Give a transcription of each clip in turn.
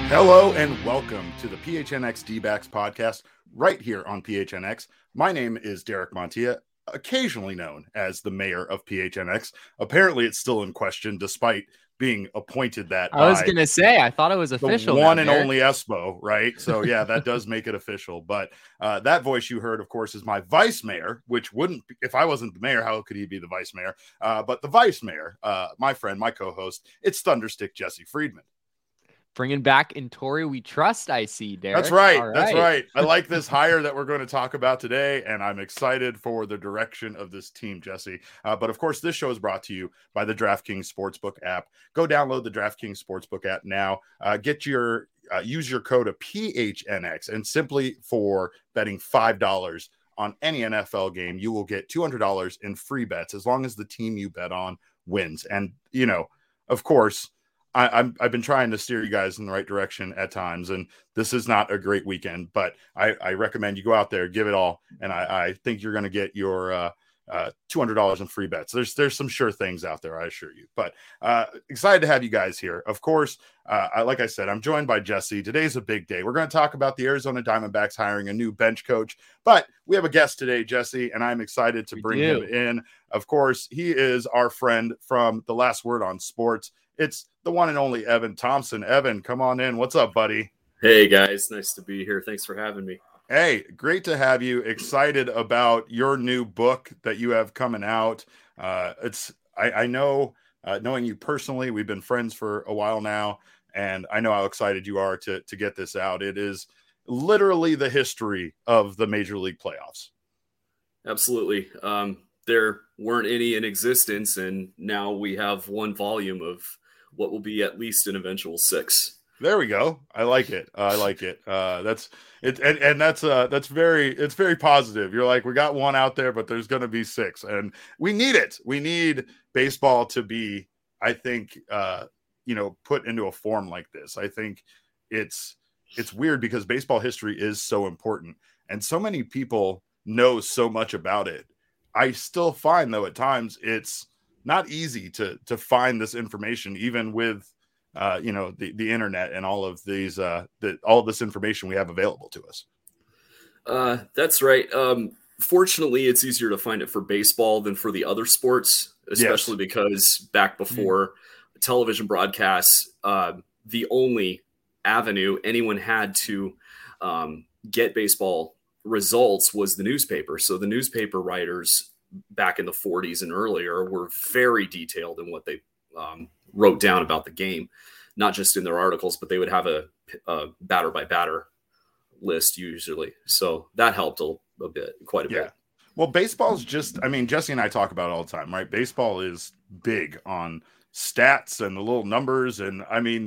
Hello and welcome to the PHNX D-backs podcast right here on PHNX. My name is Derek Montilla, occasionally known as the mayor of PHNX. Apparently it's still in question despite being appointed that I was going to say, I thought it was official. The one and only Espo, right? So yeah, that does make it official. But that voice you heard, of course, is my vice mayor, which wouldn't, if I wasn't the mayor, how could he be the vice mayor? But the vice mayor, my friend, my co-host, it's Thunderstick Jesse Friedman. Bringing back in Tory we trust, I see, Derek. That's right. That's right. I like this hire that we're going to talk about today, and I'm excited for the direction of this team, Jesse. But of course, this show is brought to you by the DraftKings Sportsbook app. Go download the DraftKings Sportsbook app now. Use your code of PHNX, and simply for betting $5 on any NFL game, you will get $200 in free bets as long as the team you bet on wins. And, you know, of course, I've been trying to steer you guys in the right direction at times, and this is not a great weekend, but I recommend you go out there, give it all, and I think you're going to get your $200 in free bets. There's some sure things out there, I assure you. But excited to have you guys here. Of course, like I said, I'm joined by Jesse. Today's a big day. We're going to talk about the Arizona Diamondbacks hiring a new bench coach, but we have a guest today, Jesse, and I'm excited to bring him in. Of course, he is our friend from The Last Word on Sports. It's the one and only Evan Thompson. Evan, come on in. What's up, buddy? Hey, guys. Nice to be here. Thanks for having me. Hey, great to have you. Excited about your new book that you have coming out. I know, knowing you personally, we've been friends for a while now, and I know how excited you are to get this out. It is literally the history of the Major League playoffs. Absolutely. There weren't any in existence, and now we have one volume of what will be at least an eventual 6. There we go. I like it. That's it. And that's very positive. You're like, we got one out there, but there's going to be 6, and we need it. We need baseball to be, I think, put into a form like this. I think it's weird because baseball history is so important, and so many people know so much about it. I still find, though, at times it's not easy to find this information, even with the internet and all of these all of this information we have available to us. That's right. Fortunately, it's easier to find it for baseball than for the other sports, especially because back before television broadcasts, the only avenue anyone had to get baseball results was the newspaper. So the newspaper writers back in the 40s and earlier were very detailed in what they wrote down about the game, not just in their articles, but they would have a batter by batter list usually. So that helped quite a bit. Well, baseball's just, Jesse and I talk about it all the time, right? Baseball is big on stats and the little numbers. And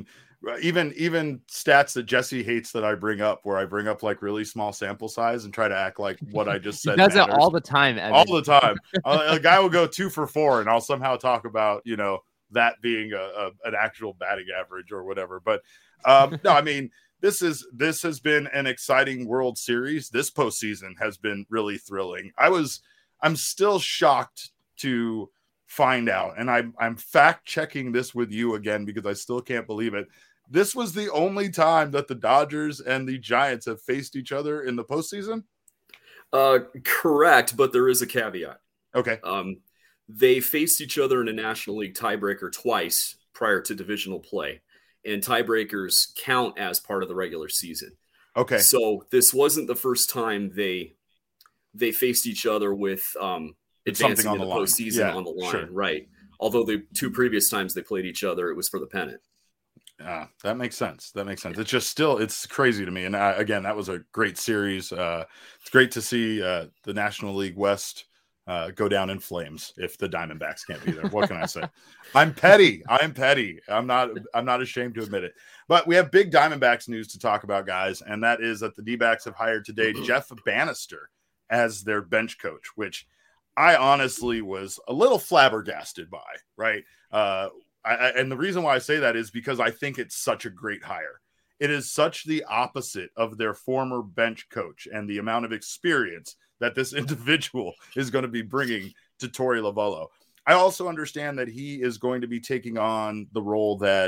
even stats that Jesse hates that I bring up, where I bring up like really small sample size and try to act like what I just said. He does it all the time. Evan. All the time. A guy will go 2 for 4 and I'll somehow talk about, that being an actual batting average or whatever. But no, this has been an exciting World Series. This postseason has been really thrilling. I'm still shocked to find out, and I'm fact checking this with you again because I still can't believe it. This was the only time that the Dodgers and the Giants have faced each other in the postseason? Correct, but there is a caveat. Okay. They faced each other in a National League tiebreaker twice prior to divisional play, and tiebreakers count as part of the regular season. Okay. So this wasn't the first time they faced each other with advancing in the postseason on the line, sure. Right? Although the 2 previous times they played each other, it was for the pennant. That makes sense. It's just still, it's crazy to me. And again, that was a great series. It's great to see the National League West go down in flames if the Diamondbacks can't be there. What can I say? I'm petty. I'm not ashamed to admit it. But we have big Diamondbacks news to talk about, guys, and that is that the D-backs have hired today Jeff Bannister as their bench coach, which I honestly was a little flabbergasted by, right? And the reason why I say that is because I think it's such a great hire. It is such the opposite of their former bench coach and the amount of experience that this individual is going to be bringing to Torey Lovullo. I also understand that he is going to be taking on the role that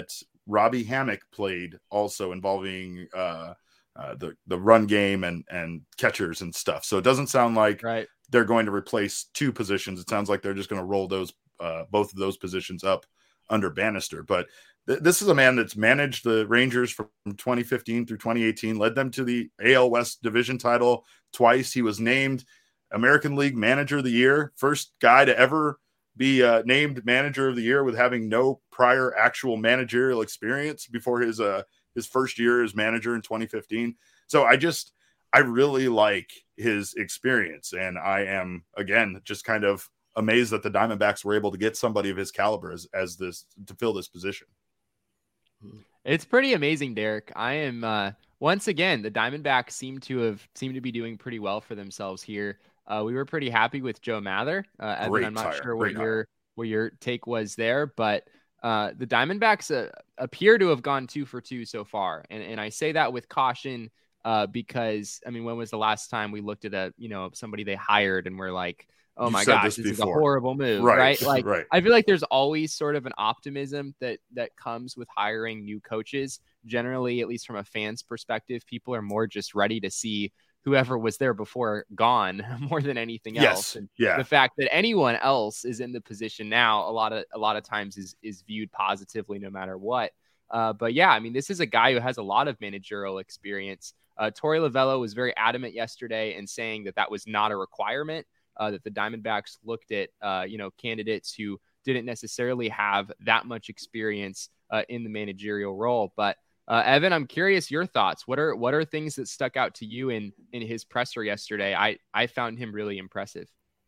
Robbie Hammock played also, involving the run game and catchers and stuff. So it doesn't sound like they're going to replace two positions. It sounds like they're just going to roll those both of those positions up under Bannister. But this is a man that's managed the Rangers from 2015 through 2018, led them to the AL West division title twice. He was named American League Manager of the Year, first guy to ever be named Manager of the Year with having no prior actual managerial experience before his first year as manager in 2015. So I really like his experience, and I am, again, just kind of amazed that the Diamondbacks were able to get somebody of his caliber as this to fill this position. It's pretty amazing, Derek. I am once again, the Diamondbacks seem to be doing pretty well for themselves here. We were pretty happy with Joe Mather. Evan, I'm not sure what your take was there, but the Diamondbacks appear to have gone 2 for 2 so far. And I say that with caution because, I mean, when was the last time we looked at somebody they hired and we're like, oh my gosh, this is a horrible move, right? Like, I feel like there's always sort of an optimism that comes with hiring new coaches. Generally, at least from a fan's perspective, people are more just ready to see whoever was there before gone more than anything else. And the fact that anyone else is in the position now, a lot of times is viewed positively no matter what. But yeah, I mean, this is a guy who has a lot of managerial experience. Torey Lovullo was very adamant yesterday in saying that was not a requirement. That the Diamondbacks looked at, candidates who didn't necessarily have that much experience in the managerial role. But Evan, I'm curious your thoughts. What are things that stuck out to you in his presser yesterday? I found him really impressive.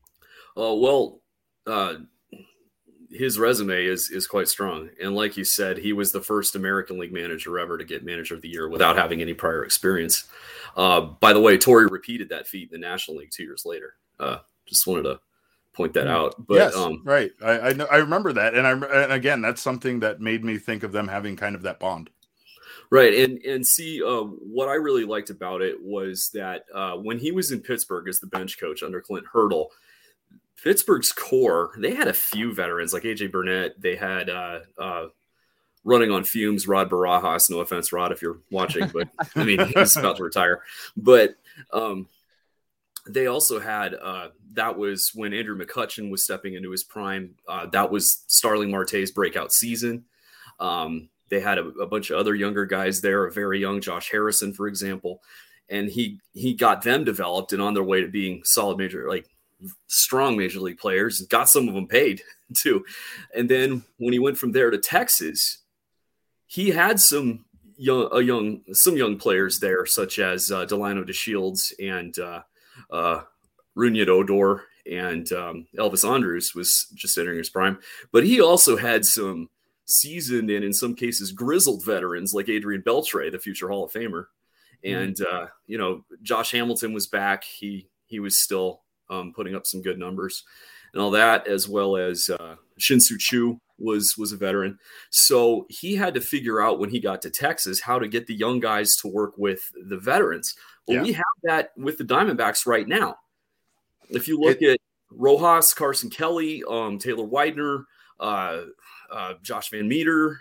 His resume is quite strong. And like you said, he was the first American League manager ever to get Manager of the Year without having any prior experience. By the way, Torey repeated that feat in the National League 2 years later. Just wanted to point that out. But yes, right. I know, I remember that. And again, that's something that made me think of them having kind of that bond. Right. And see, what I really liked about it was that when he was in Pittsburgh as the bench coach under Clint Hurdle, Pittsburgh's core, they had a few veterans like AJ Burnett. They had running on fumes, Rod Barajas. No offense, Rod, if you're watching, but I mean, he's about to retire. But they also had that was when Andrew McCutchen was stepping into his prime. That was Starling Marte's breakout season. They had a bunch of other younger guys there, a very young Josh Harrison, for example, and he got them developed and on their way to being solid strong major league players, and got some of them paid too. And then when he went from there to Texas, he had some young players there, such as Delano DeShields and Rougned Odor, and Elvis Andrus was just entering his prime. But he also had some seasoned and in some cases grizzled veterans like Adrian Beltre, the future Hall of Famer. And, Josh Hamilton was back. He was still putting up some good numbers and all that, as well as Shin-Soo Choo was a veteran. So he had to figure out when he got to Texas how to get the young guys to work with the veterans. Well, we have that with the Diamondbacks right now. If you look at Rojas, Carson Kelly, Taylor Widener, Josh Van Meter,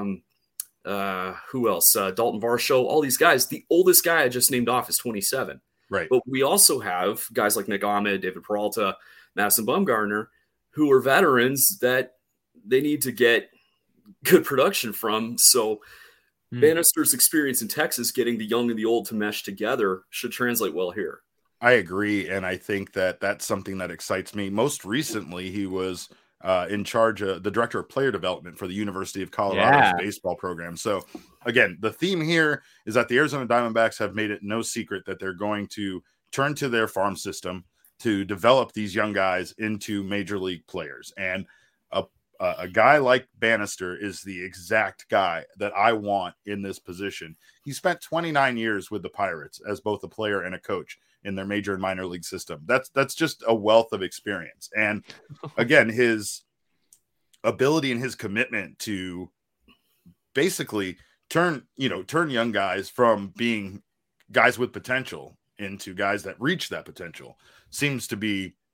who else? Dalton Varsho, all these guys. The oldest guy I just named off is 27. Right. But we also have guys like Nick Ahmed, David Peralta, Madison Bumgarner, who are veterans that they need to get good production from. So Bannister's experience in Texas, getting the young and the old to mesh together, should translate well here. I agree. And I think that that's something that excites me. Most recently, he was in charge of the director of player development for the University of Colorado's baseball program. So again, the theme here is that the Arizona Diamondbacks have made it no secret that they're going to turn to their farm system to develop these young guys into major league players. And a guy like Bannister is the exact guy that I want in this position. He spent 29 years with the Pirates as both a player and a coach in their major and minor league system. That's just a wealth of experience. And again, his ability and his commitment to basically turn young guys from being guys with potential into guys that reach that potential seems to be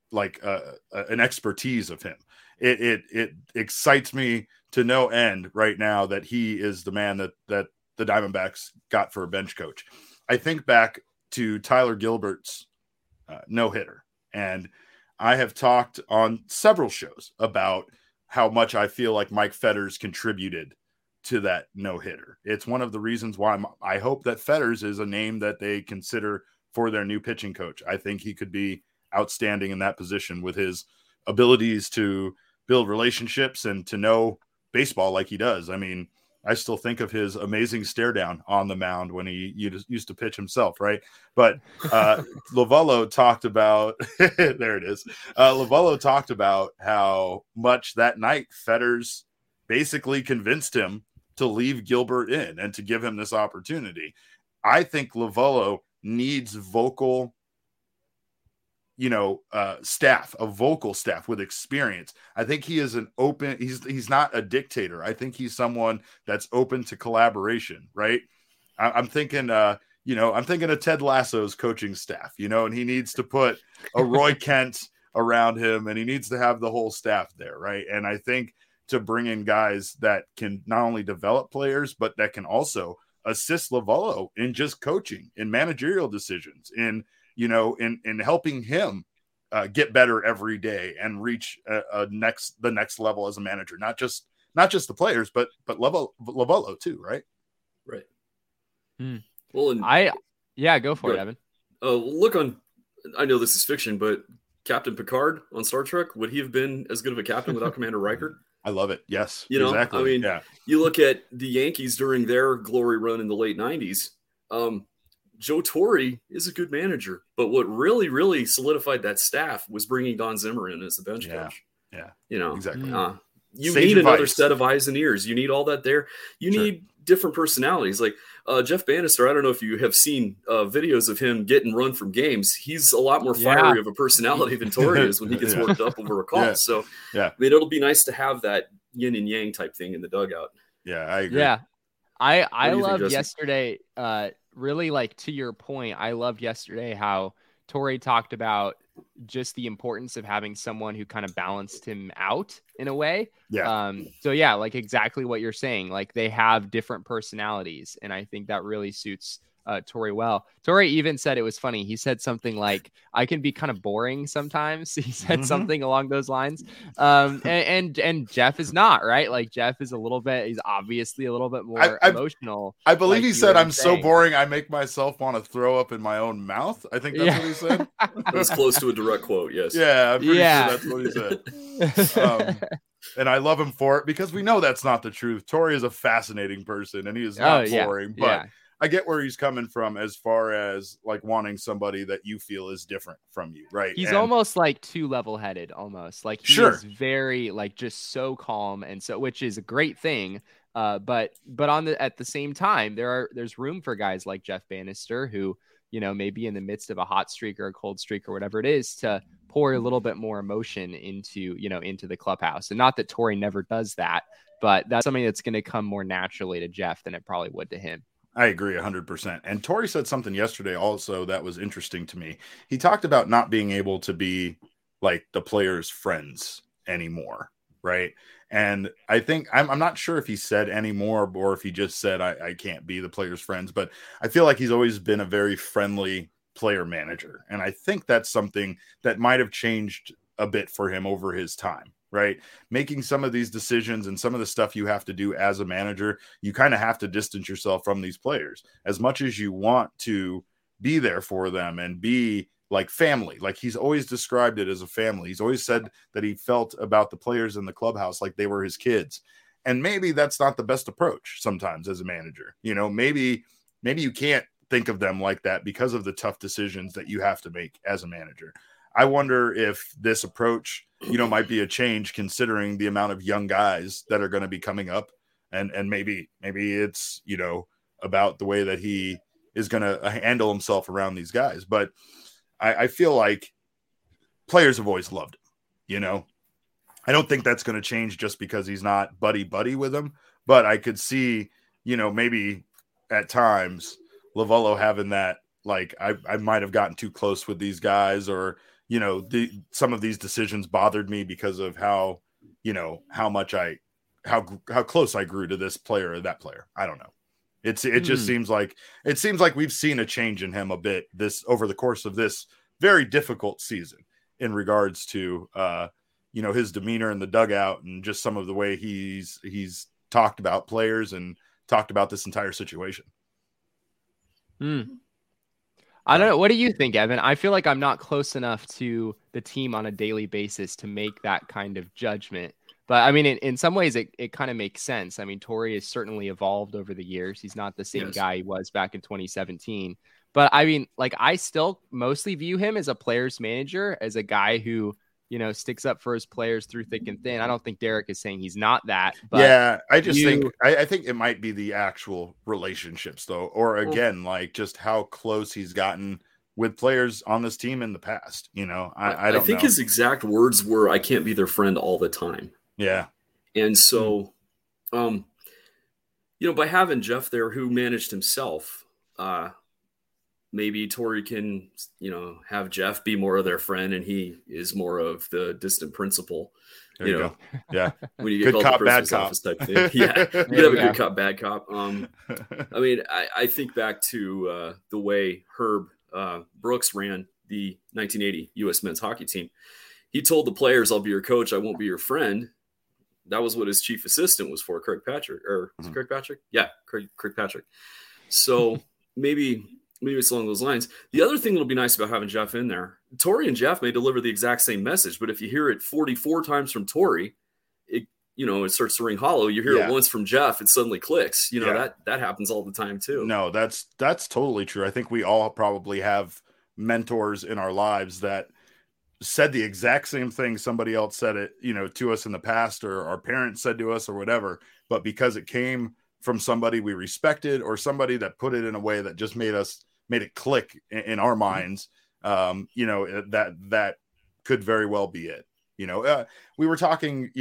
an expertise of him. It excites me to no end right now that he is the man that the Diamondbacks got for a bench coach. I think back to Tyler Gilbert's no-hitter, and I have talked on several shows about how much I feel like Mike Fetters contributed to that no-hitter. It's one of the reasons why I hope that Fetters is a name that they consider for their new pitching coach. I think he could be outstanding in that position with his abilities to build relationships and to know baseball like he does. I mean, I still think of his amazing stare down on the mound when he used to pitch himself, right? But Lovullo talked about there it is. Lovullo talked about how much that night Fetters basically convinced him to leave Gilbert in and to give him this opportunity. I think Lovullo needs vocal staff, a vocal staff with experience. I think he is he's not a dictator. I think he's someone that's open to collaboration, right? I'm thinking, I'm thinking of Ted Lasso's coaching staff, and he needs to put a Roy Kent around him, and he needs to have the whole staff there, right? And I think to bring in guys that can not only develop players, but that can also assist Lovullo in just coaching, in managerial decisions, in helping him get better every day and reach the next level as a manager. Not just the players, but Lovullo too, right? Right. Well, go for it, Evan. I know this is fiction, but Captain Picard on Star Trek, would he have been as good of a captain without Commander Riker? I love it. Yes, exactly. I mean, you look at the Yankees during their glory run in the late 90s. Joe Torre is a good manager, but what really, really solidified that staff was bringing Don Zimmer in as the bench coach. Yeah, exactly. You Sage need advice. Another set of eyes and ears. You need all that there. You need different personalities. Like Jeff Bannister, I don't know if you have seen videos of him getting run from games. He's a lot more fiery of a personality than Torre is when he gets worked up over a call. Yeah. So, I mean, it'll be nice to have that yin and yang type thing in the dugout. Yeah, I agree. Yeah, I loved yesterday. Really, like, to your point, I loved yesterday how Torre talked about just the importance of having someone who kind of balanced him out in a way. Yeah. So yeah, like exactly what you're saying. Like they have different personalities, and I think that really suits Torre well. Torre even said it was funny. He said something like, "I can be kind of boring sometimes." He said something along those lines. And Jeff is not, right. Like Jeff is he's obviously a little bit more emotional. I believe he said, "I'm so boring, I make myself want to throw up in my own mouth." I think that's what he said. That's close to a direct quote. Yes. Yeah. I'm pretty sure that's what he said. And I love him for it because we know that's not the truth. Torre is a fascinating person and he is not boring, but I get where he's coming from as far as like wanting somebody that you feel is different from you, right? He's almost like too level-headed, almost like he is very like just so calm, and so which is a great thing. But at the same time, there's room for guys like Jeff Bannister who maybe in the midst of a hot streak or a cold streak or whatever it is to pour a little bit more emotion into the clubhouse. And not that Torre never does that, but that's something that's going to come more naturally to Jeff than it probably would to him. I agree 100%. And Torre said something yesterday also that was interesting to me. He talked about not being able to be like the players' friends anymore, right? And I think I'm not sure if he said anymore or if he just said I can't be the players' friends, but I feel like he's always been a very friendly player manager. And I think that's something that might have changed a bit for him over his time. Right. Making some of these decisions and some of the stuff you have to do as a manager, you kind of have to distance yourself from these players as much as you want to be there for them and be like family. Like he's always described it as a family. He's always said that he felt about the players in the clubhouse like they were his kids. And maybe that's not the best approach sometimes as a manager. Maybe you can't think of them like that because of the tough decisions that you have to make as a manager. I wonder if this approach, might be a change considering the amount of young guys that are going to be coming up. And maybe it's, about the way that he is going to handle himself around these guys. But I feel like players have always loved him, I don't think that's going to change just because he's not buddy with him. But I could see, maybe at times Lovullo having that, like, I might have gotten too close with these guys or, some of these decisions bothered me because of how close I grew to this player or that player. I don't know. It just seems like we've seen a change in him a bit over the course of this very difficult season in regards to his demeanor in the dugout and just some of the way he's talked about players and talked about this entire situation. I don't know. What do you think, Evan? I feel like I'm not close enough to the team on a daily basis to make that kind of judgment. But I mean, in some ways, it kind of makes sense. I mean, Torey has certainly evolved over the years. He's not the same guy he was back in 2017. But I mean, like, I still mostly view him as a player's manager, as a guy who, sticks up for his players through thick and thin. I don't think Derek is saying he's not that. But yeah, I just think it might be the actual relationships, though, or again, like just how close he's gotten with players on this team in the past. I think his exact words were, "I can't be their friend all the time." Yeah. And so, by having Jeff there who managed himself, maybe Torey can, have Jeff be more of their friend and he is more of the distant principal. There you go. Yeah. When you get good called cop, the bad cop type thing. Yeah. You could have a good cop, bad cop. I mean, I think back to the way Herb Brooks ran the 1980 U.S. men's hockey team. He told the players, "I'll be your coach. I won't be your friend." That was what his chief assistant was for, Craig Patrick. Or is it Craig Patrick? Yeah, Craig Patrick. So maybe it's along those lines. The other thing that'll be nice about having Jeff in there, Torey and Jeff may deliver the exact same message, but if you hear it 44 times from Torey, it starts to ring hollow. You hear it once from Jeff, it suddenly clicks. That happens all the time too. No, that's totally true. I think we all probably have mentors in our lives that said the exact same thing somebody else said it, to us in the past, or our parents said to us or whatever, but because it came from somebody we respected or somebody that put it in a way that just made it click in our minds, that could very well be it. We were talking,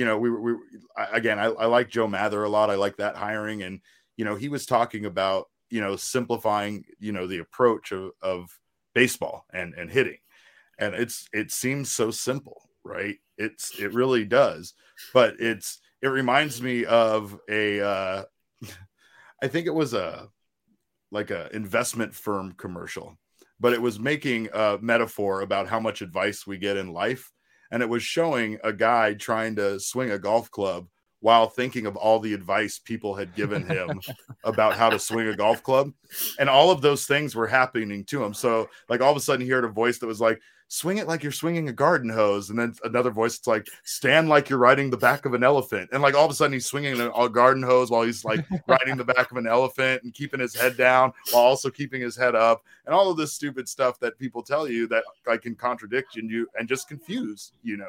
I like Joe Mather a lot. I like that hiring. And, he was talking about, simplifying, the approach of baseball and hitting. And it seems so simple, right? It really does. But it reminds me of I think it was a investment firm commercial, but it was making a metaphor about how much advice we get in life. And it was showing a guy trying to swing a golf club while thinking of all the advice people had given him about how to swing a golf club. And all of those things were happening to him. So like all of a sudden he heard a voice that was like, swing it like you're swinging a garden hose. And then another voice, it's like, stand like you're riding the back of an elephant. And like all of a sudden he's swinging a garden hose while he's like riding the back of an elephant and keeping his head down while also keeping his head up. And all of this stupid stuff that people tell you that like can contradict you and just confuse you.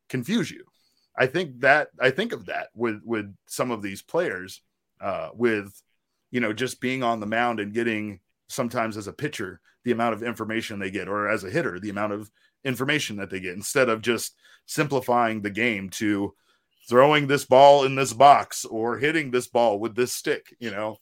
I think of that with some of these players, with, just being on the mound and getting, sometimes as a pitcher, the amount of information they get, or as a hitter, the amount of information that they get, instead of just simplifying the game to throwing this ball in this box or hitting this ball with this stick,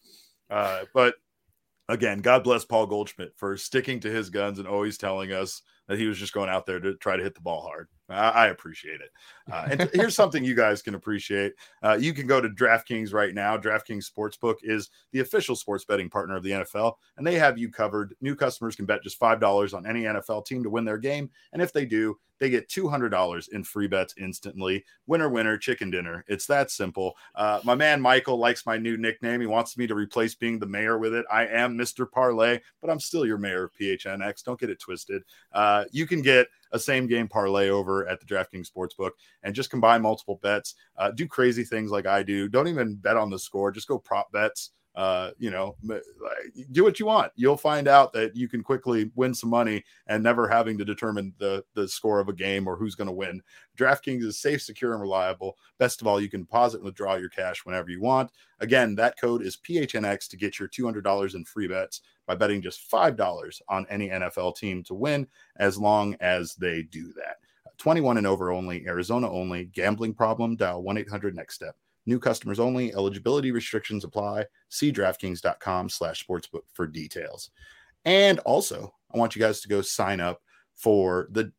but again, God bless Paul Goldschmidt for sticking to his guns and always telling us that he was just going out there to try to hit the ball hard. I appreciate it. And here's something you guys can appreciate. You can go to DraftKings right now. DraftKings Sportsbook is the official sports betting partner of the NFL, and they have you covered. New customers can bet just $5 on any NFL team to win their game. And if they do, they get $200 in free bets instantly. Winner, winner, chicken dinner. It's that simple. My man Michael likes my new nickname. He wants me to replace being the mayor with it. I am Mr. Parlay, but I'm still your mayor of PHNX. Don't get it twisted. You can get a same game parlay over at the DraftKings Sportsbook and just combine multiple bets. Do crazy things like I do. Don't even bet on the score. Just go prop bets. Do what you want. You'll find out that you can quickly win some money and never having to determine the score of a game or who's going to win. DraftKings is safe, secure, and reliable. Best of all, you can deposit and withdraw your cash whenever you want. Again, that code is PHNX to get your $200 in free bets by betting just $5 on any NFL team to win, as long as they do that. 21 and over only, Arizona only. Gambling problem? Dial 1-800-NEXT-STEP. New customers only. Eligibility restrictions apply. See DraftKings.com/sportsbook for details. And also, I want you guys to go sign up for the,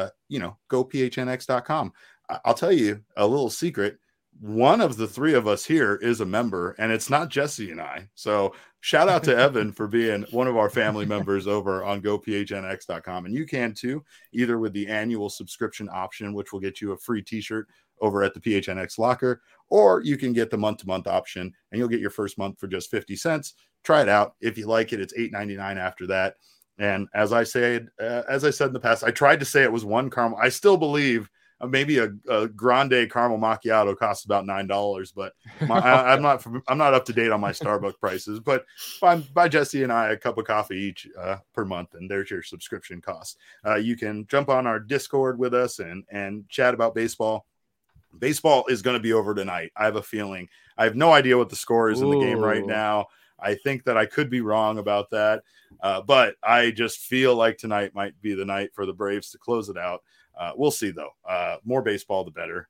gophnx.com. I'll tell you a little secret. One of the three of us here is a member, and it's not Jesse and I. So shout out to Evan for being one of our family members over on gophnx.com. And you can too, either with the annual subscription option, which will get you a free t-shirt over at the PHNX locker, or you can get the month-to-month option and you'll get your first month for just 50 cents. Try it out. If you like it, it's $8.99 after that. And as I said in the past, I tried to say it was one caramel. I still believe maybe a grande caramel macchiato costs about $9, but I'm not up to date on my Starbucks prices. But buy Jesse and I a cup of coffee each per month, and there's your subscription cost. You can jump on our Discord with us and chat about baseball. Baseball is going to be over tonight. I have a feeling. I have no idea what the score is in the game right now. I think that I could be wrong about that, but I just feel like tonight might be the night for the Braves to close it out. We'll see, though. More baseball, the better.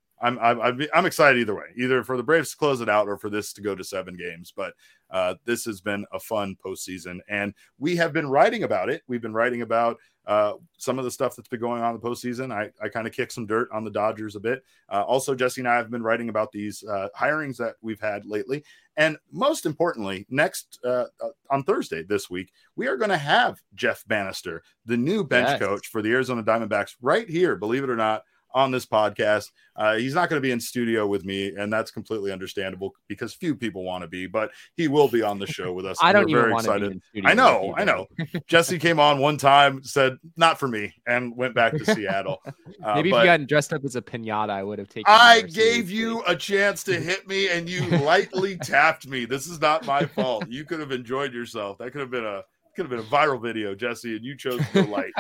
I'm excited either way, either for the Braves to close it out or for this to go to 7 games. But this has been a fun postseason, and we have been writing about it. We've been writing about some of the stuff that's been going on in the postseason. I kind of kicked some dirt on the Dodgers a bit. Also, Jesse and I have been writing about these hirings that we've had lately. And most importantly, next on Thursday this week, we are going to have Jeff Bannister, the new bench coach for the Arizona Diamondbacks, right here, believe it or not, on this podcast. He's not going to be in studio with me, and that's completely understandable because few people want to be, but he will be on the show with us. I don't even want to be in studio. I know. Jesse came on one time, said not for me, and went back to Seattle. Maybe if you hadn't dressed up as a pinata, I would have taken. I gave you a chance to hit me, and you lightly tapped me. This is not my fault. You could have enjoyed yourself. That could have been a viral video, Jesse, and you chose to go light.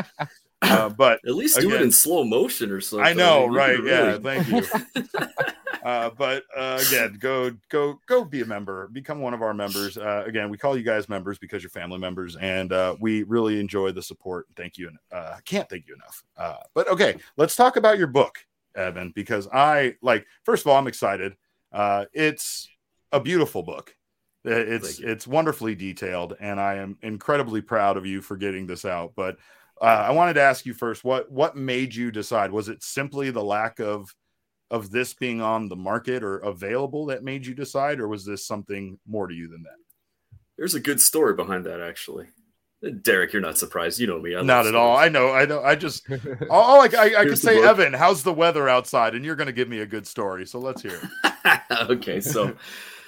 But at least do it in slow motion or something. I know, right? Yeah, thank you. But again, go be a member, become one of our members. Again, we call you guys members because you're family members, and we really enjoy the support. Thank you, and I can't thank you enough. But okay, let's talk about your book, Evan, because first of all, I'm excited. It's a beautiful book. It's wonderfully detailed, and I am incredibly proud of you for getting this out. But I wanted to ask you first, what made you decide? Was it simply the lack of this being on the market or available that made you decide, or was this something more to you than that? There's a good story behind that, actually. Derek, you're not surprised. You know me. Not at all. I know. I just I could say, Evan, how's the weather outside? And you're going to give me a good story. So let's hear it. Okay. So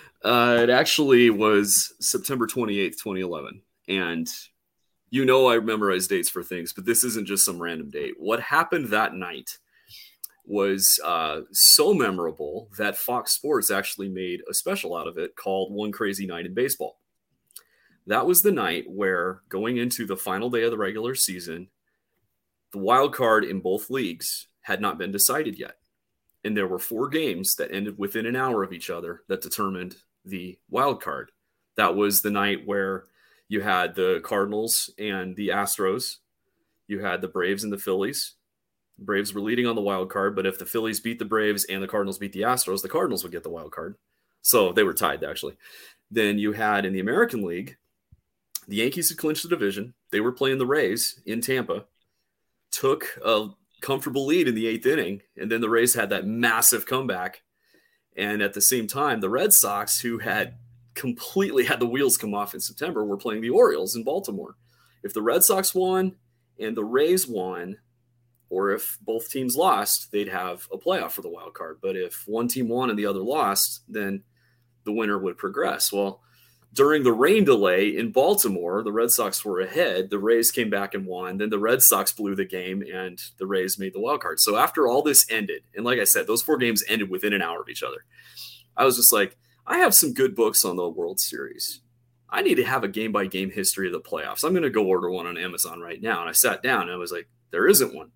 it actually was September 28th, 2011. And I memorize dates for things, but this isn't just some random date. What happened that night was so memorable that Fox Sports actually made a special out of it called One Crazy Night in Baseball. That was the night where, going into the final day of the regular season, the wild card in both leagues had not been decided yet. And there were 4 games that ended within an hour of each other that determined the wild card. That was the night where you had the Cardinals and the Astros. You had the Braves and the Phillies. The Braves were leading on the wild card, but if the Phillies beat the Braves and the Cardinals beat the Astros, the Cardinals would get the wild card. So they were tied, actually. Then you had in the American League, the Yankees had clinched the division. They were playing the Rays in Tampa, took a comfortable lead in the 8th inning, and then the Rays had that massive comeback. And at the same time, the Red Sox, who had completely had the wheels come off in September, were playing the Orioles in Baltimore. If the Red Sox won and the Rays won, or if both teams lost, they'd have a playoff for the wild card. But if one team won and the other lost, then the winner would progress. Well, during the rain delay in Baltimore, the Red Sox were ahead. The Rays came back and won. Then the Red Sox blew the game, and the Rays made the wild card. So after all this ended, and like I said, those 4 games ended within an hour of each other, I was just like, I have some good books on the World Series. I need to have a game-by-game history of the playoffs. I'm going to go order one on Amazon right now. And I sat down, and I was like, there isn't one.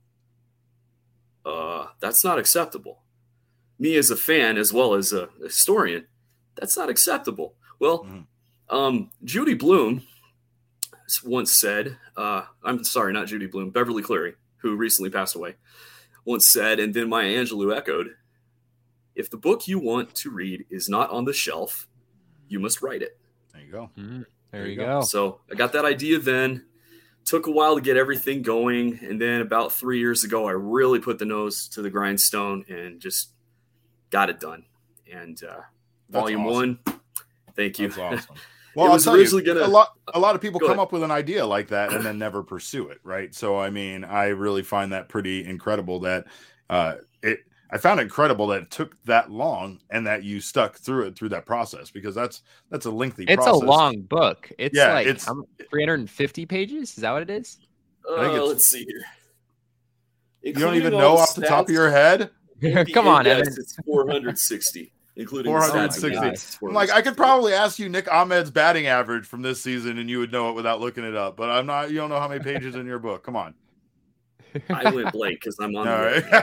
That's not acceptable. Me as a fan, as well as a historian, that's not acceptable. Well, Judy Blume once said, I'm sorry, not Judy Blume, Beverly Cleary, who recently passed away, once said, and then Maya Angelou echoed, if the book you want to read is not on the shelf, you must write it. There you go. There you go. So I got that idea then, took a while to get everything going. And then about 3 years ago, I really put the nose to the grindstone and just got it done. And volume awesome. 1, thank you. That's awesome. Well, I'll tell you, a lot of people come up with an idea like that and then never pursue it, right? So, I mean, I really find that pretty incredible that I found it incredible that it took that long and that you stuck through that process, because that's a lengthy process. It's a long book. It's 350 pages. Is that what it is? Let's see here. You don't even know off the top of your head? Come on, Evan. It's 460. Including 460. I'm like, I could probably ask you Nick Ahmed's batting average from this season and you would know it without looking it up. But you don't know how many pages in your book. Come on. I went blank because I'm on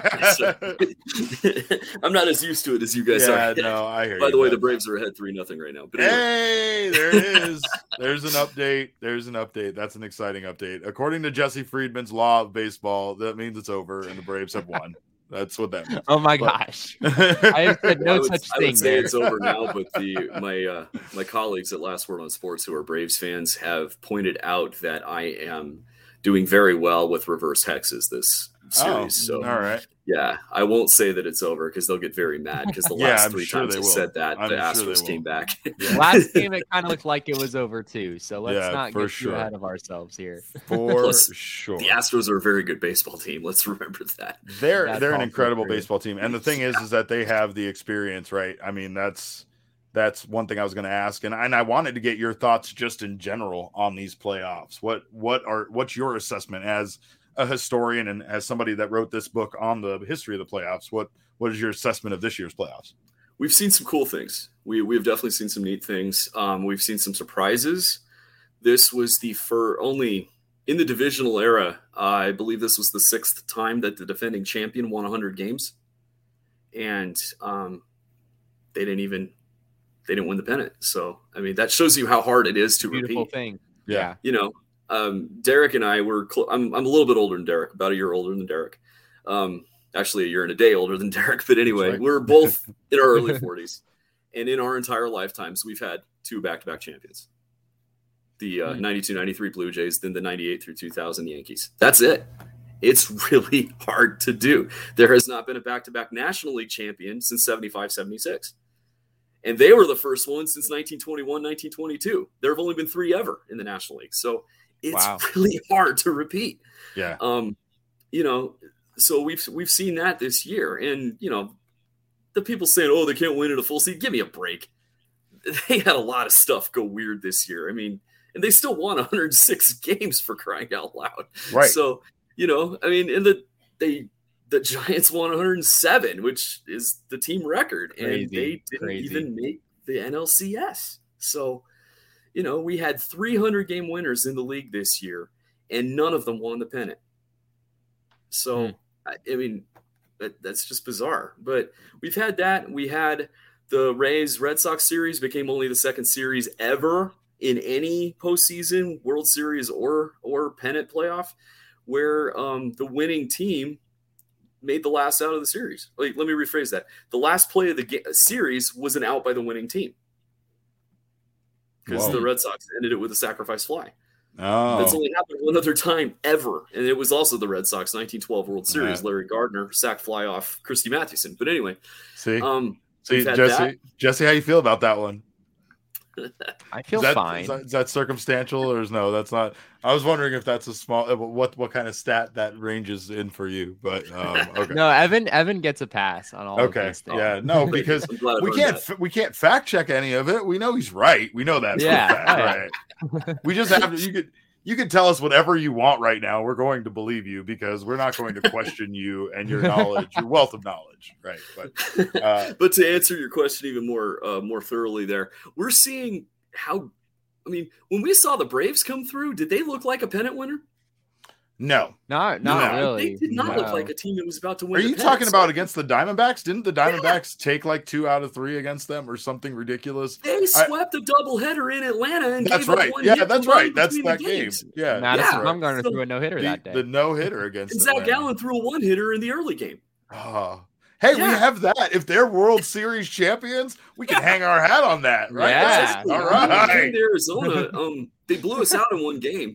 I'm not as used to it as you guys are. No, I hear you. By the way, the Braves are ahead 3-0 right now. But anyway. Hey, there it is. There's an update. That's an exciting update. According to Jesse Friedman's law of baseball, that means it's over and the Braves have won. That's what that means. Oh my gosh! I have said no such thing. I would say it's over now, but my colleagues at Last Word on Sports, who are Braves fans, have pointed out that I am doing very well with reverse hexes this series. So, all right. Yeah, I won't say that it's over because they'll get very mad because the last three times I said that, the Astros came back. Last game, it kind of looked like it was over too. So let's not get too ahead of ourselves here. For sure. The Astros are a very good baseball team. Let's remember that. They're an incredible baseball team. And the thing is that they have the experience, right? I mean, that's one thing I was going to ask. And I wanted to get your thoughts just in general on these playoffs. What's your assessment as a historian and as somebody that wrote this book on the history of the playoffs? What is your assessment of this year's playoffs? We've seen some cool things. We've definitely seen some neat things. We've seen some surprises. This was only in the divisional era. I believe this was the 6th time that the defending champion won 100 games, and they didn't win the pennant. So, I mean, that shows you how hard it is to beautiful repeat. Thing. Yeah. You know, Derek and I were I'm a little bit older than Derek, about a year older than Derek. Actually a year and a day older than Derek. But anyway, right. We're both in our early 40s. And in our entire lifetimes, we've had 2 back-to-back champions. The 92-93 Blue Jays, then the 98 through 2000 Yankees. That's it. It's really hard to do. There has not been a back-to-back National League champion since 75-76. And they were the first one since 1921, 1922. There have only been 3 ever in the National League. So it's really hard to repeat. Yeah. You know, so we've seen that this year. And, you know, the people saying, oh, they can't win in a full season. Give me a break. They had a lot of stuff go weird this year. I mean, and they still won 106 games, for crying out loud. Right. So, you know, I mean, and the Giants won 107, which is the team record, and they didn't even make the NLCS. So, you know, we had 300-game winners in the league this year, and none of them won the pennant. So, I mean, that's just bizarre. But we've had that. We had the Rays-Red Sox series became only the 2nd series ever in any postseason, World Series or pennant playoff, where the winning team made the last out of the series. Let me rephrase that. The last play of the series was an out by the winning team, because the Red Sox ended it with a sacrifice fly. Oh, that's only happened one other time ever, and it was also the Red Sox 1912 World Series. Larry Gardner sack fly off Christy Mathewson. But anyway, see, Jesse, how you feel about that one? I feel fine. Is that circumstantial or no? That's not. I was wondering if that's a small. What kind of stat that ranges in for you? But okay. No, Evan gets a pass on all. Okay, of these things. Yeah, no, because we can't fact check any of it. We know he's right. We know that. Right. We just have to. You can tell us whatever you want right now. We're going to believe you because we're not going to question you and your knowledge, your wealth of knowledge, right? But to answer your question even more thoroughly, there, we're seeing how. I mean, when we saw the Braves come through, did they look like a pennant winner? No, not really. They did not look like a team that was about to win. Are you talking about against the Diamondbacks? Didn't the Diamondbacks take like 2 out of 3 against them or something ridiculous? They swept a doubleheader in Atlanta and that's gave right. Up one Yeah, that's right. That's that game. Yeah, Madison Bumgarner threw a no-hitter that day. The no-hitter against and Zach Gallen threw a 1-hitter in the early game. Oh. Hey, we have that. If they're World Series champions, we can hang our hat on that, right? Yeah. All right. In Arizona, they blew us out in one game.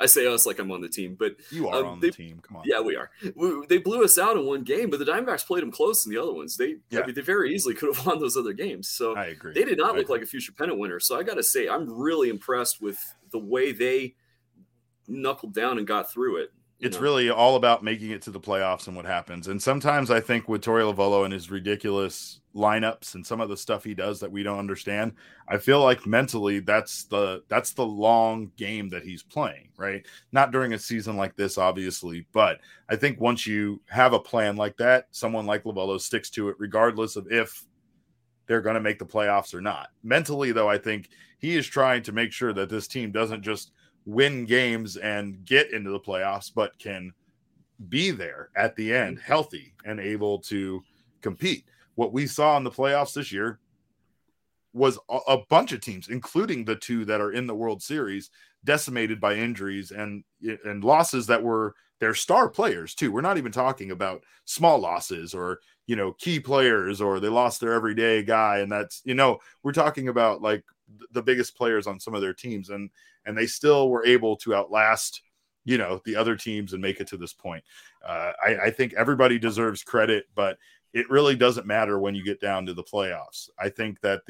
I say us like I'm on the team, but you are on the team. Come on. Yeah, we are. They blew us out in one game, but the Diamondbacks played them close in the other ones. I mean, they very easily could have won those other games. So I agree. They did not look like a future pennant winner. So I got to say, I'm really impressed with the way they knuckled down and got through it. It's really all about making it to the playoffs and what happens. And sometimes I think with Torey Lovullo and his ridiculous lineups and some of the stuff he does that we don't understand, I feel like mentally that's the long game that he's playing, right? Not during a season like this, obviously, but I think once you have a plan like that, someone like Lovullo sticks to it regardless of if they're going to make the playoffs or not. Mentally, though, I think he is trying to make sure that this team doesn't just win games and get into the playoffs, but can be there at the end, healthy and able to compete. What we saw in the playoffs this year was a bunch of teams, including the two that are in the World Series, decimated by injuries and losses that were their star players too. We're not even talking about small losses or, key players, or they lost their everyday guy. And that's, we're talking about like the biggest players on some of their teams, and they still were able to outlast, the other teams and make it to this point. I think everybody deserves credit, but it really doesn't matter when you get down to the playoffs. I think that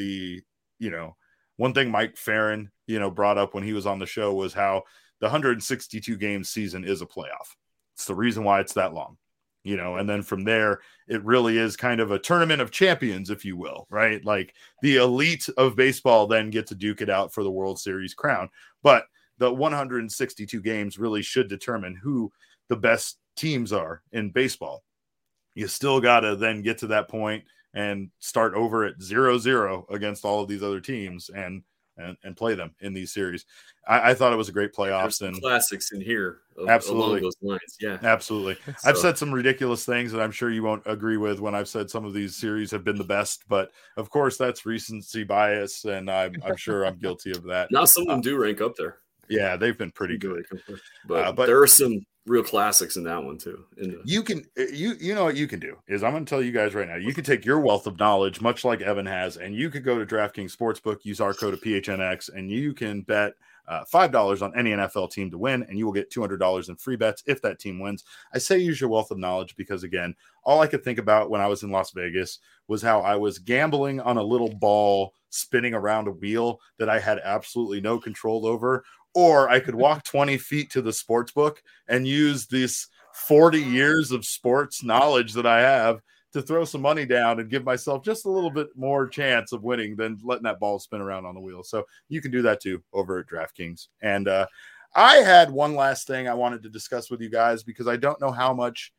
one thing Mike Farron, brought up when he was on the show was how the 162 game season is a playoff. It's the reason why it's that long, and then from there, it really is kind of a tournament of champions, if you will, right? Like the elite of baseball then get to duke it out for the World Series crown. But the 162 games really should determine who the best teams are in baseball. You still got to then get to that point and start over at 0-0 against all of these other teams and play them in these series. I thought it was a great playoffs. There's some classics in here. Absolutely. Along those lines. Yeah, absolutely. So, I've said some ridiculous things that I'm sure you won't agree with when I've said some of these series have been the best, but of course that's recency bias, and I'm sure I'm guilty of that. Now some of them do rank up there. Yeah, they've been pretty good. But there are some real classics in that one too. You know what you can do is I'm going to tell you guys right now, you can take your wealth of knowledge, much like Evan has, and you could go to DraftKings Sportsbook, use our code of PHNX, and you can bet $5 on any NFL team to win, and you will get $200 in free bets if that team wins. I say use your wealth of knowledge because, again, all I could think about when I was in Las Vegas was how I was gambling on a little ball spinning around a wheel that I had absolutely no control over. Or I could walk 20 feet to the sports book and use this 40 years of sports knowledge that I have to throw some money down and give myself just a little bit more chance of winning than letting that ball spin around on the wheel. So you can do that too over at DraftKings. And I had one last thing I wanted to discuss with you guys because I don't know how much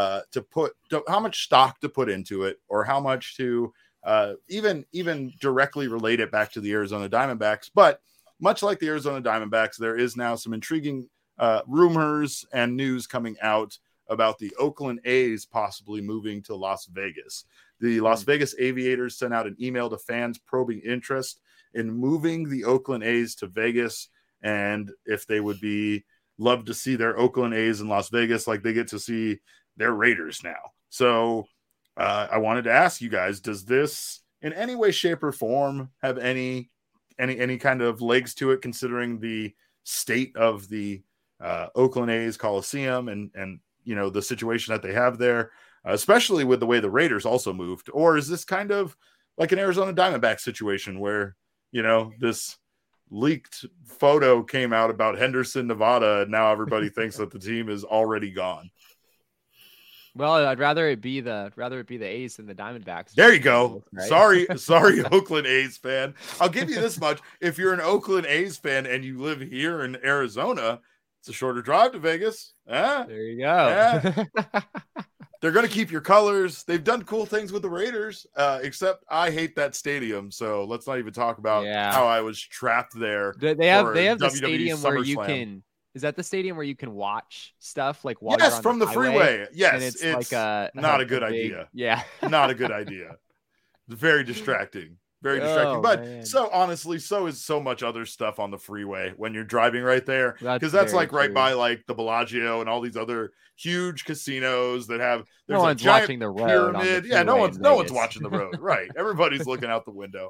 how much stock to put into it, or how much to even directly relate it back to the Arizona Diamondbacks. But much like the Arizona Diamondbacks, there is now some intriguing rumors and news coming out about the Oakland A's possibly moving to Las Vegas. The Las Vegas Aviators sent out an email to fans probing interest in moving the Oakland A's to Vegas, and if they would love to see their Oakland A's in Las Vegas like they get to see their Raiders now. So I wanted to ask you guys, does this in any way, shape, or form have any kind of legs to it, considering the state of the Oakland A's Coliseum and the situation that they have there, especially with the way the Raiders also moved? Or is this kind of like an Arizona Diamondback situation where, this leaked photo came out about Henderson, Nevada, and now everybody thinks that the team is already gone? Well, I'd rather it be the A's than the Diamondbacks. There you go. Right? Sorry, Oakland A's fan. I'll give you this much: if you're an Oakland A's fan and you live here in Arizona, it's a shorter drive to Vegas. There you go. They're going to keep your colors. They've done cool things with the Raiders, except I hate that stadium. So let's not even talk about how I was trapped there. They have the stadium where you can. Is that the stadium where you can watch stuff like while you're on from the freeway? Yes, and it's like not a good idea. Yeah, not a good idea. Very distracting. Very distracting. But man. So honestly, so is so much other stuff on the freeway when you're driving right there, because that's like true. Right by like the Bellagio and all these other huge casinos that have. No one's watching the road. Pyramid. Yeah, no one's watching the road. Right. Everybody's looking out the window.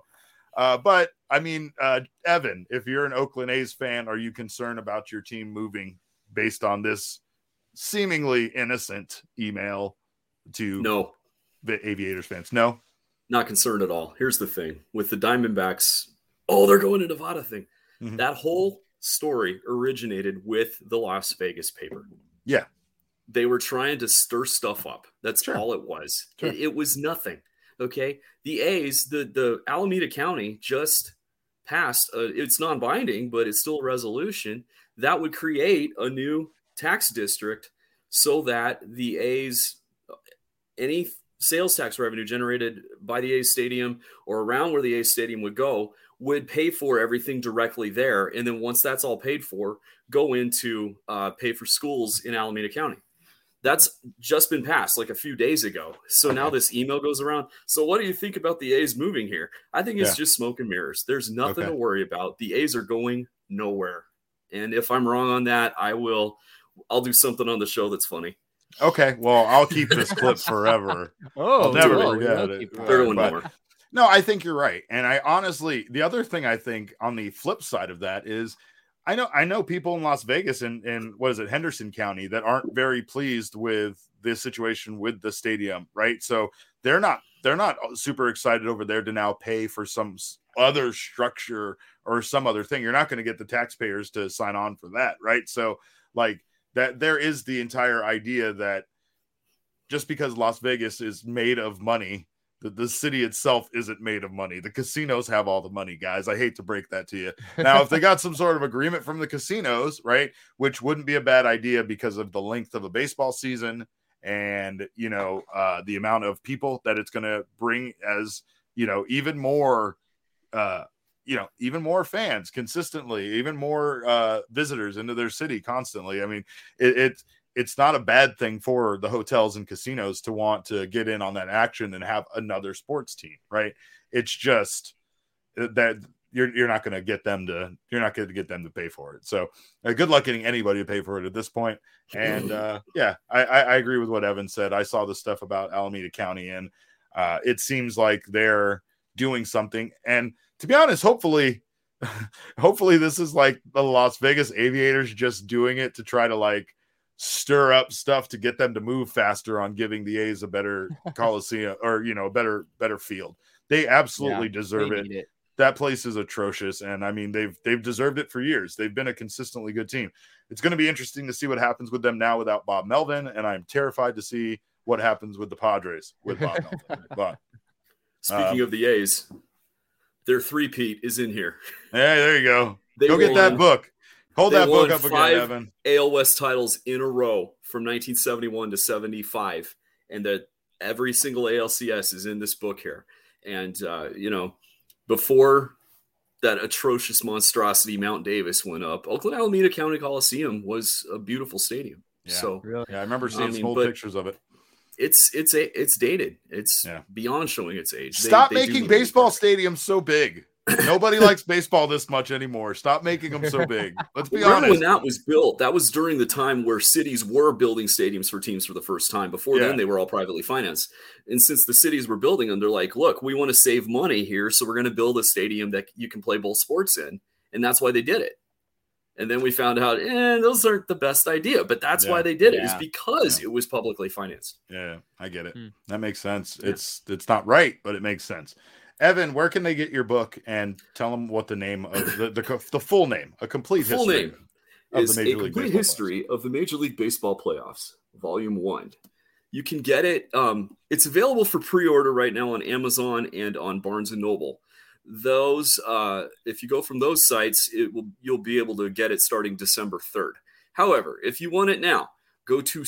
But I mean, Evan, if you're an Oakland A's fan, are you concerned about your team moving based on this seemingly innocent email to the Aviators fans? No, not concerned at all. Here's the thing with the Diamondbacks. Oh, they're going to Nevada thing. Mm-hmm. That whole story originated with the Las Vegas paper. Yeah. They were trying to stir stuff up. That's all it was. Sure. It was nothing. Okay. The A's, the Alameda County just passed. It's non-binding, but it's still a resolution that would create a new tax district so that the A's, any sales tax revenue generated by the A's stadium or around where the A's stadium would go, would pay for everything directly there. And then once that's all paid for, go into pay for schools in Alameda County. That's just been passed like a few days ago. So now this email goes around. So what do you think about the A's moving here? I think it's just smoke and mirrors. There's nothing to worry about. The A's are going nowhere. And if I'm wrong on that, I'll do something on the show that's funny. Okay. Well, I'll keep this clip forever. I'll never forget it. No, I think you're right. And I honestly, the other thing I think on the flip side of that is I know people in Las Vegas and what is it, Henderson County, that aren't very pleased with this situation with the stadium, right? So they're not super excited over there to now pay for some other structure or some other thing. You're not going to get the taxpayers to sign on for that, right? So like that, there is the entire idea that just because Las Vegas is made of money, the city itself isn't made of money. The casinos have all the money, guys. I hate to break that to you. Now, if they got some sort of agreement from the casinos, right, which wouldn't be a bad idea because of the length of a baseball season and, the amount of people that it's going to bring as, even more fans consistently, even more visitors into their city constantly. I mean, it's not a bad thing for the hotels and casinos to want to get in on that action and have another sports team, right? It's just that you're not going to get them to pay for it. So good luck getting anybody to pay for it at this point. And I agree with what Evan said. I saw the stuff about Alameda County and it seems like they're doing something. And to be honest, hopefully this is like the Las Vegas Aviators just doing it to try to like stir up stuff to get them to move faster on giving the A's a better Coliseum or, a better field. They absolutely deserve it. That place is atrocious. And I mean, they've deserved it for years. They've been a consistently good team. It's going to be interesting to see what happens with them now without Bob Melvin. And I'm terrified to see what happens with the Padres with Bob Melvin. But speaking of the A's, their three-peat is in here. Hey, there you go. Go get that book. Hold that book up again, Evan. AL West titles in a row from 1971 to 75, and that every single ALCS is in this book here. And before that atrocious monstrosity Mount Davis went up, Oakland Alameda County Coliseum was a beautiful stadium. Yeah, so really? I remember seeing some old pictures of it. It's dated. It's beyond showing its age. Stop making baseball stadiums so big. Nobody likes baseball this much anymore. Stop making them so big. Let's be honest. When that was built, that was during the time where cities were building stadiums for teams for the first time. Before then, they were all privately financed. And since the cities were building them, they're like, look, we want to save money here, so we're going to build a stadium that you can play both sports in. And that's why they did it. And then we found out, those aren't the best idea. But that's why they did it, is because it was publicly financed. Yeah, I get it. That makes sense. Yeah. It's not right, but it makes sense. Evan, where can they get your book and tell them what the name of the full name, a complete history? Full name is A Complete History of the Major League Baseball Playoffs, Volume 1. You can get it. It's available for pre-order right now on Amazon and on Barnes & Noble. Those, if you go from those sites, you'll be able to get it starting December 3rd. However, if you want it now, go to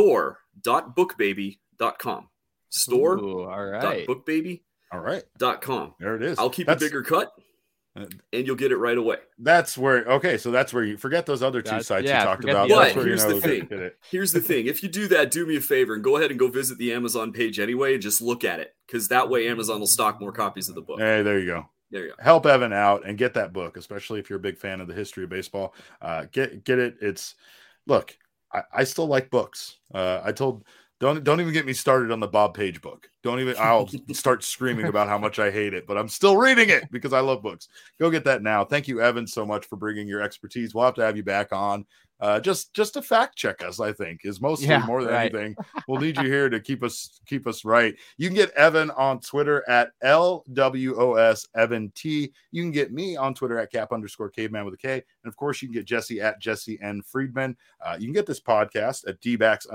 store.bookbaby.com. Store.bookbaby.com. All right. .com. There it is. I'll keep a bigger cut and you'll get it right away. That's where you forget those other two sites you talked about. But here's the thing. Here's the thing. If you do that, do me a favor and go ahead and go visit the Amazon page anyway and just look at it. Because that way Amazon will stock more copies of the book. Hey, there you go. There you go. Help Evan out and get that book, especially if you're a big fan of the history of baseball. Get it. I still like books. I told Don't even get me started on the Bob Page book. I'll start screaming about how much I hate it, but I'm still reading it because I love books. Go get that now. Thank you, Evan, so much for bringing your expertise. We'll have to have you back on. Just to fact check us, I think, is mostly more than anything. We'll need you here to keep us right. You can get Evan on Twitter at LWOS Evan T. You can get me on Twitter at Cap_Caveman with a K. And of course, you can get Jesse at Jesse N. Friedman. You can get this podcast at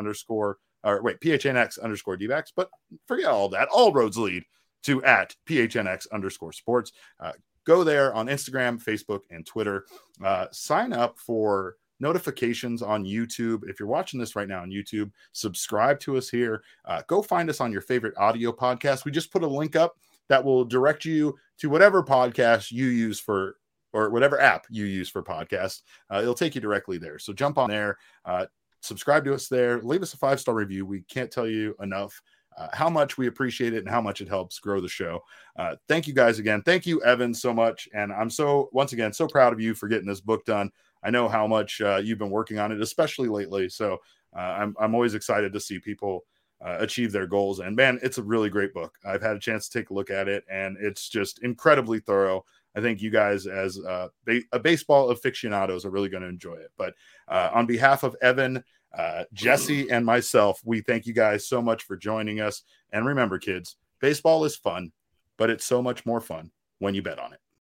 PHNX_DBacks, but forget all that. All roads lead to at PHNX_sports. Go there on Instagram, Facebook, and Twitter. Sign up for notifications on YouTube. If you're watching this right now on YouTube, subscribe to us here. Go find us on your favorite audio podcast. We just put a link up that will direct you to whatever podcast you use or whatever app you use for podcasts. It'll take you directly there. So jump on there. Subscribe to us there. Leave us a 5-star review. We can't tell you enough how much we appreciate it and how much it helps grow the show. Thank you guys again. Thank you, Evan, so much. And I'm once again, so proud of you for getting this book done. I know how much you've been working on it, especially lately. So I'm always excited to see people achieve their goals. And man, it's a really great book. I've had a chance to take a look at it, and it's just incredibly thorough. I think you guys, as a baseball aficionados, are really going to enjoy it. But on behalf of Evan, Jesse, and myself, we thank you guys so much for joining us. And remember, kids, baseball is fun, but it's so much more fun when you bet on it.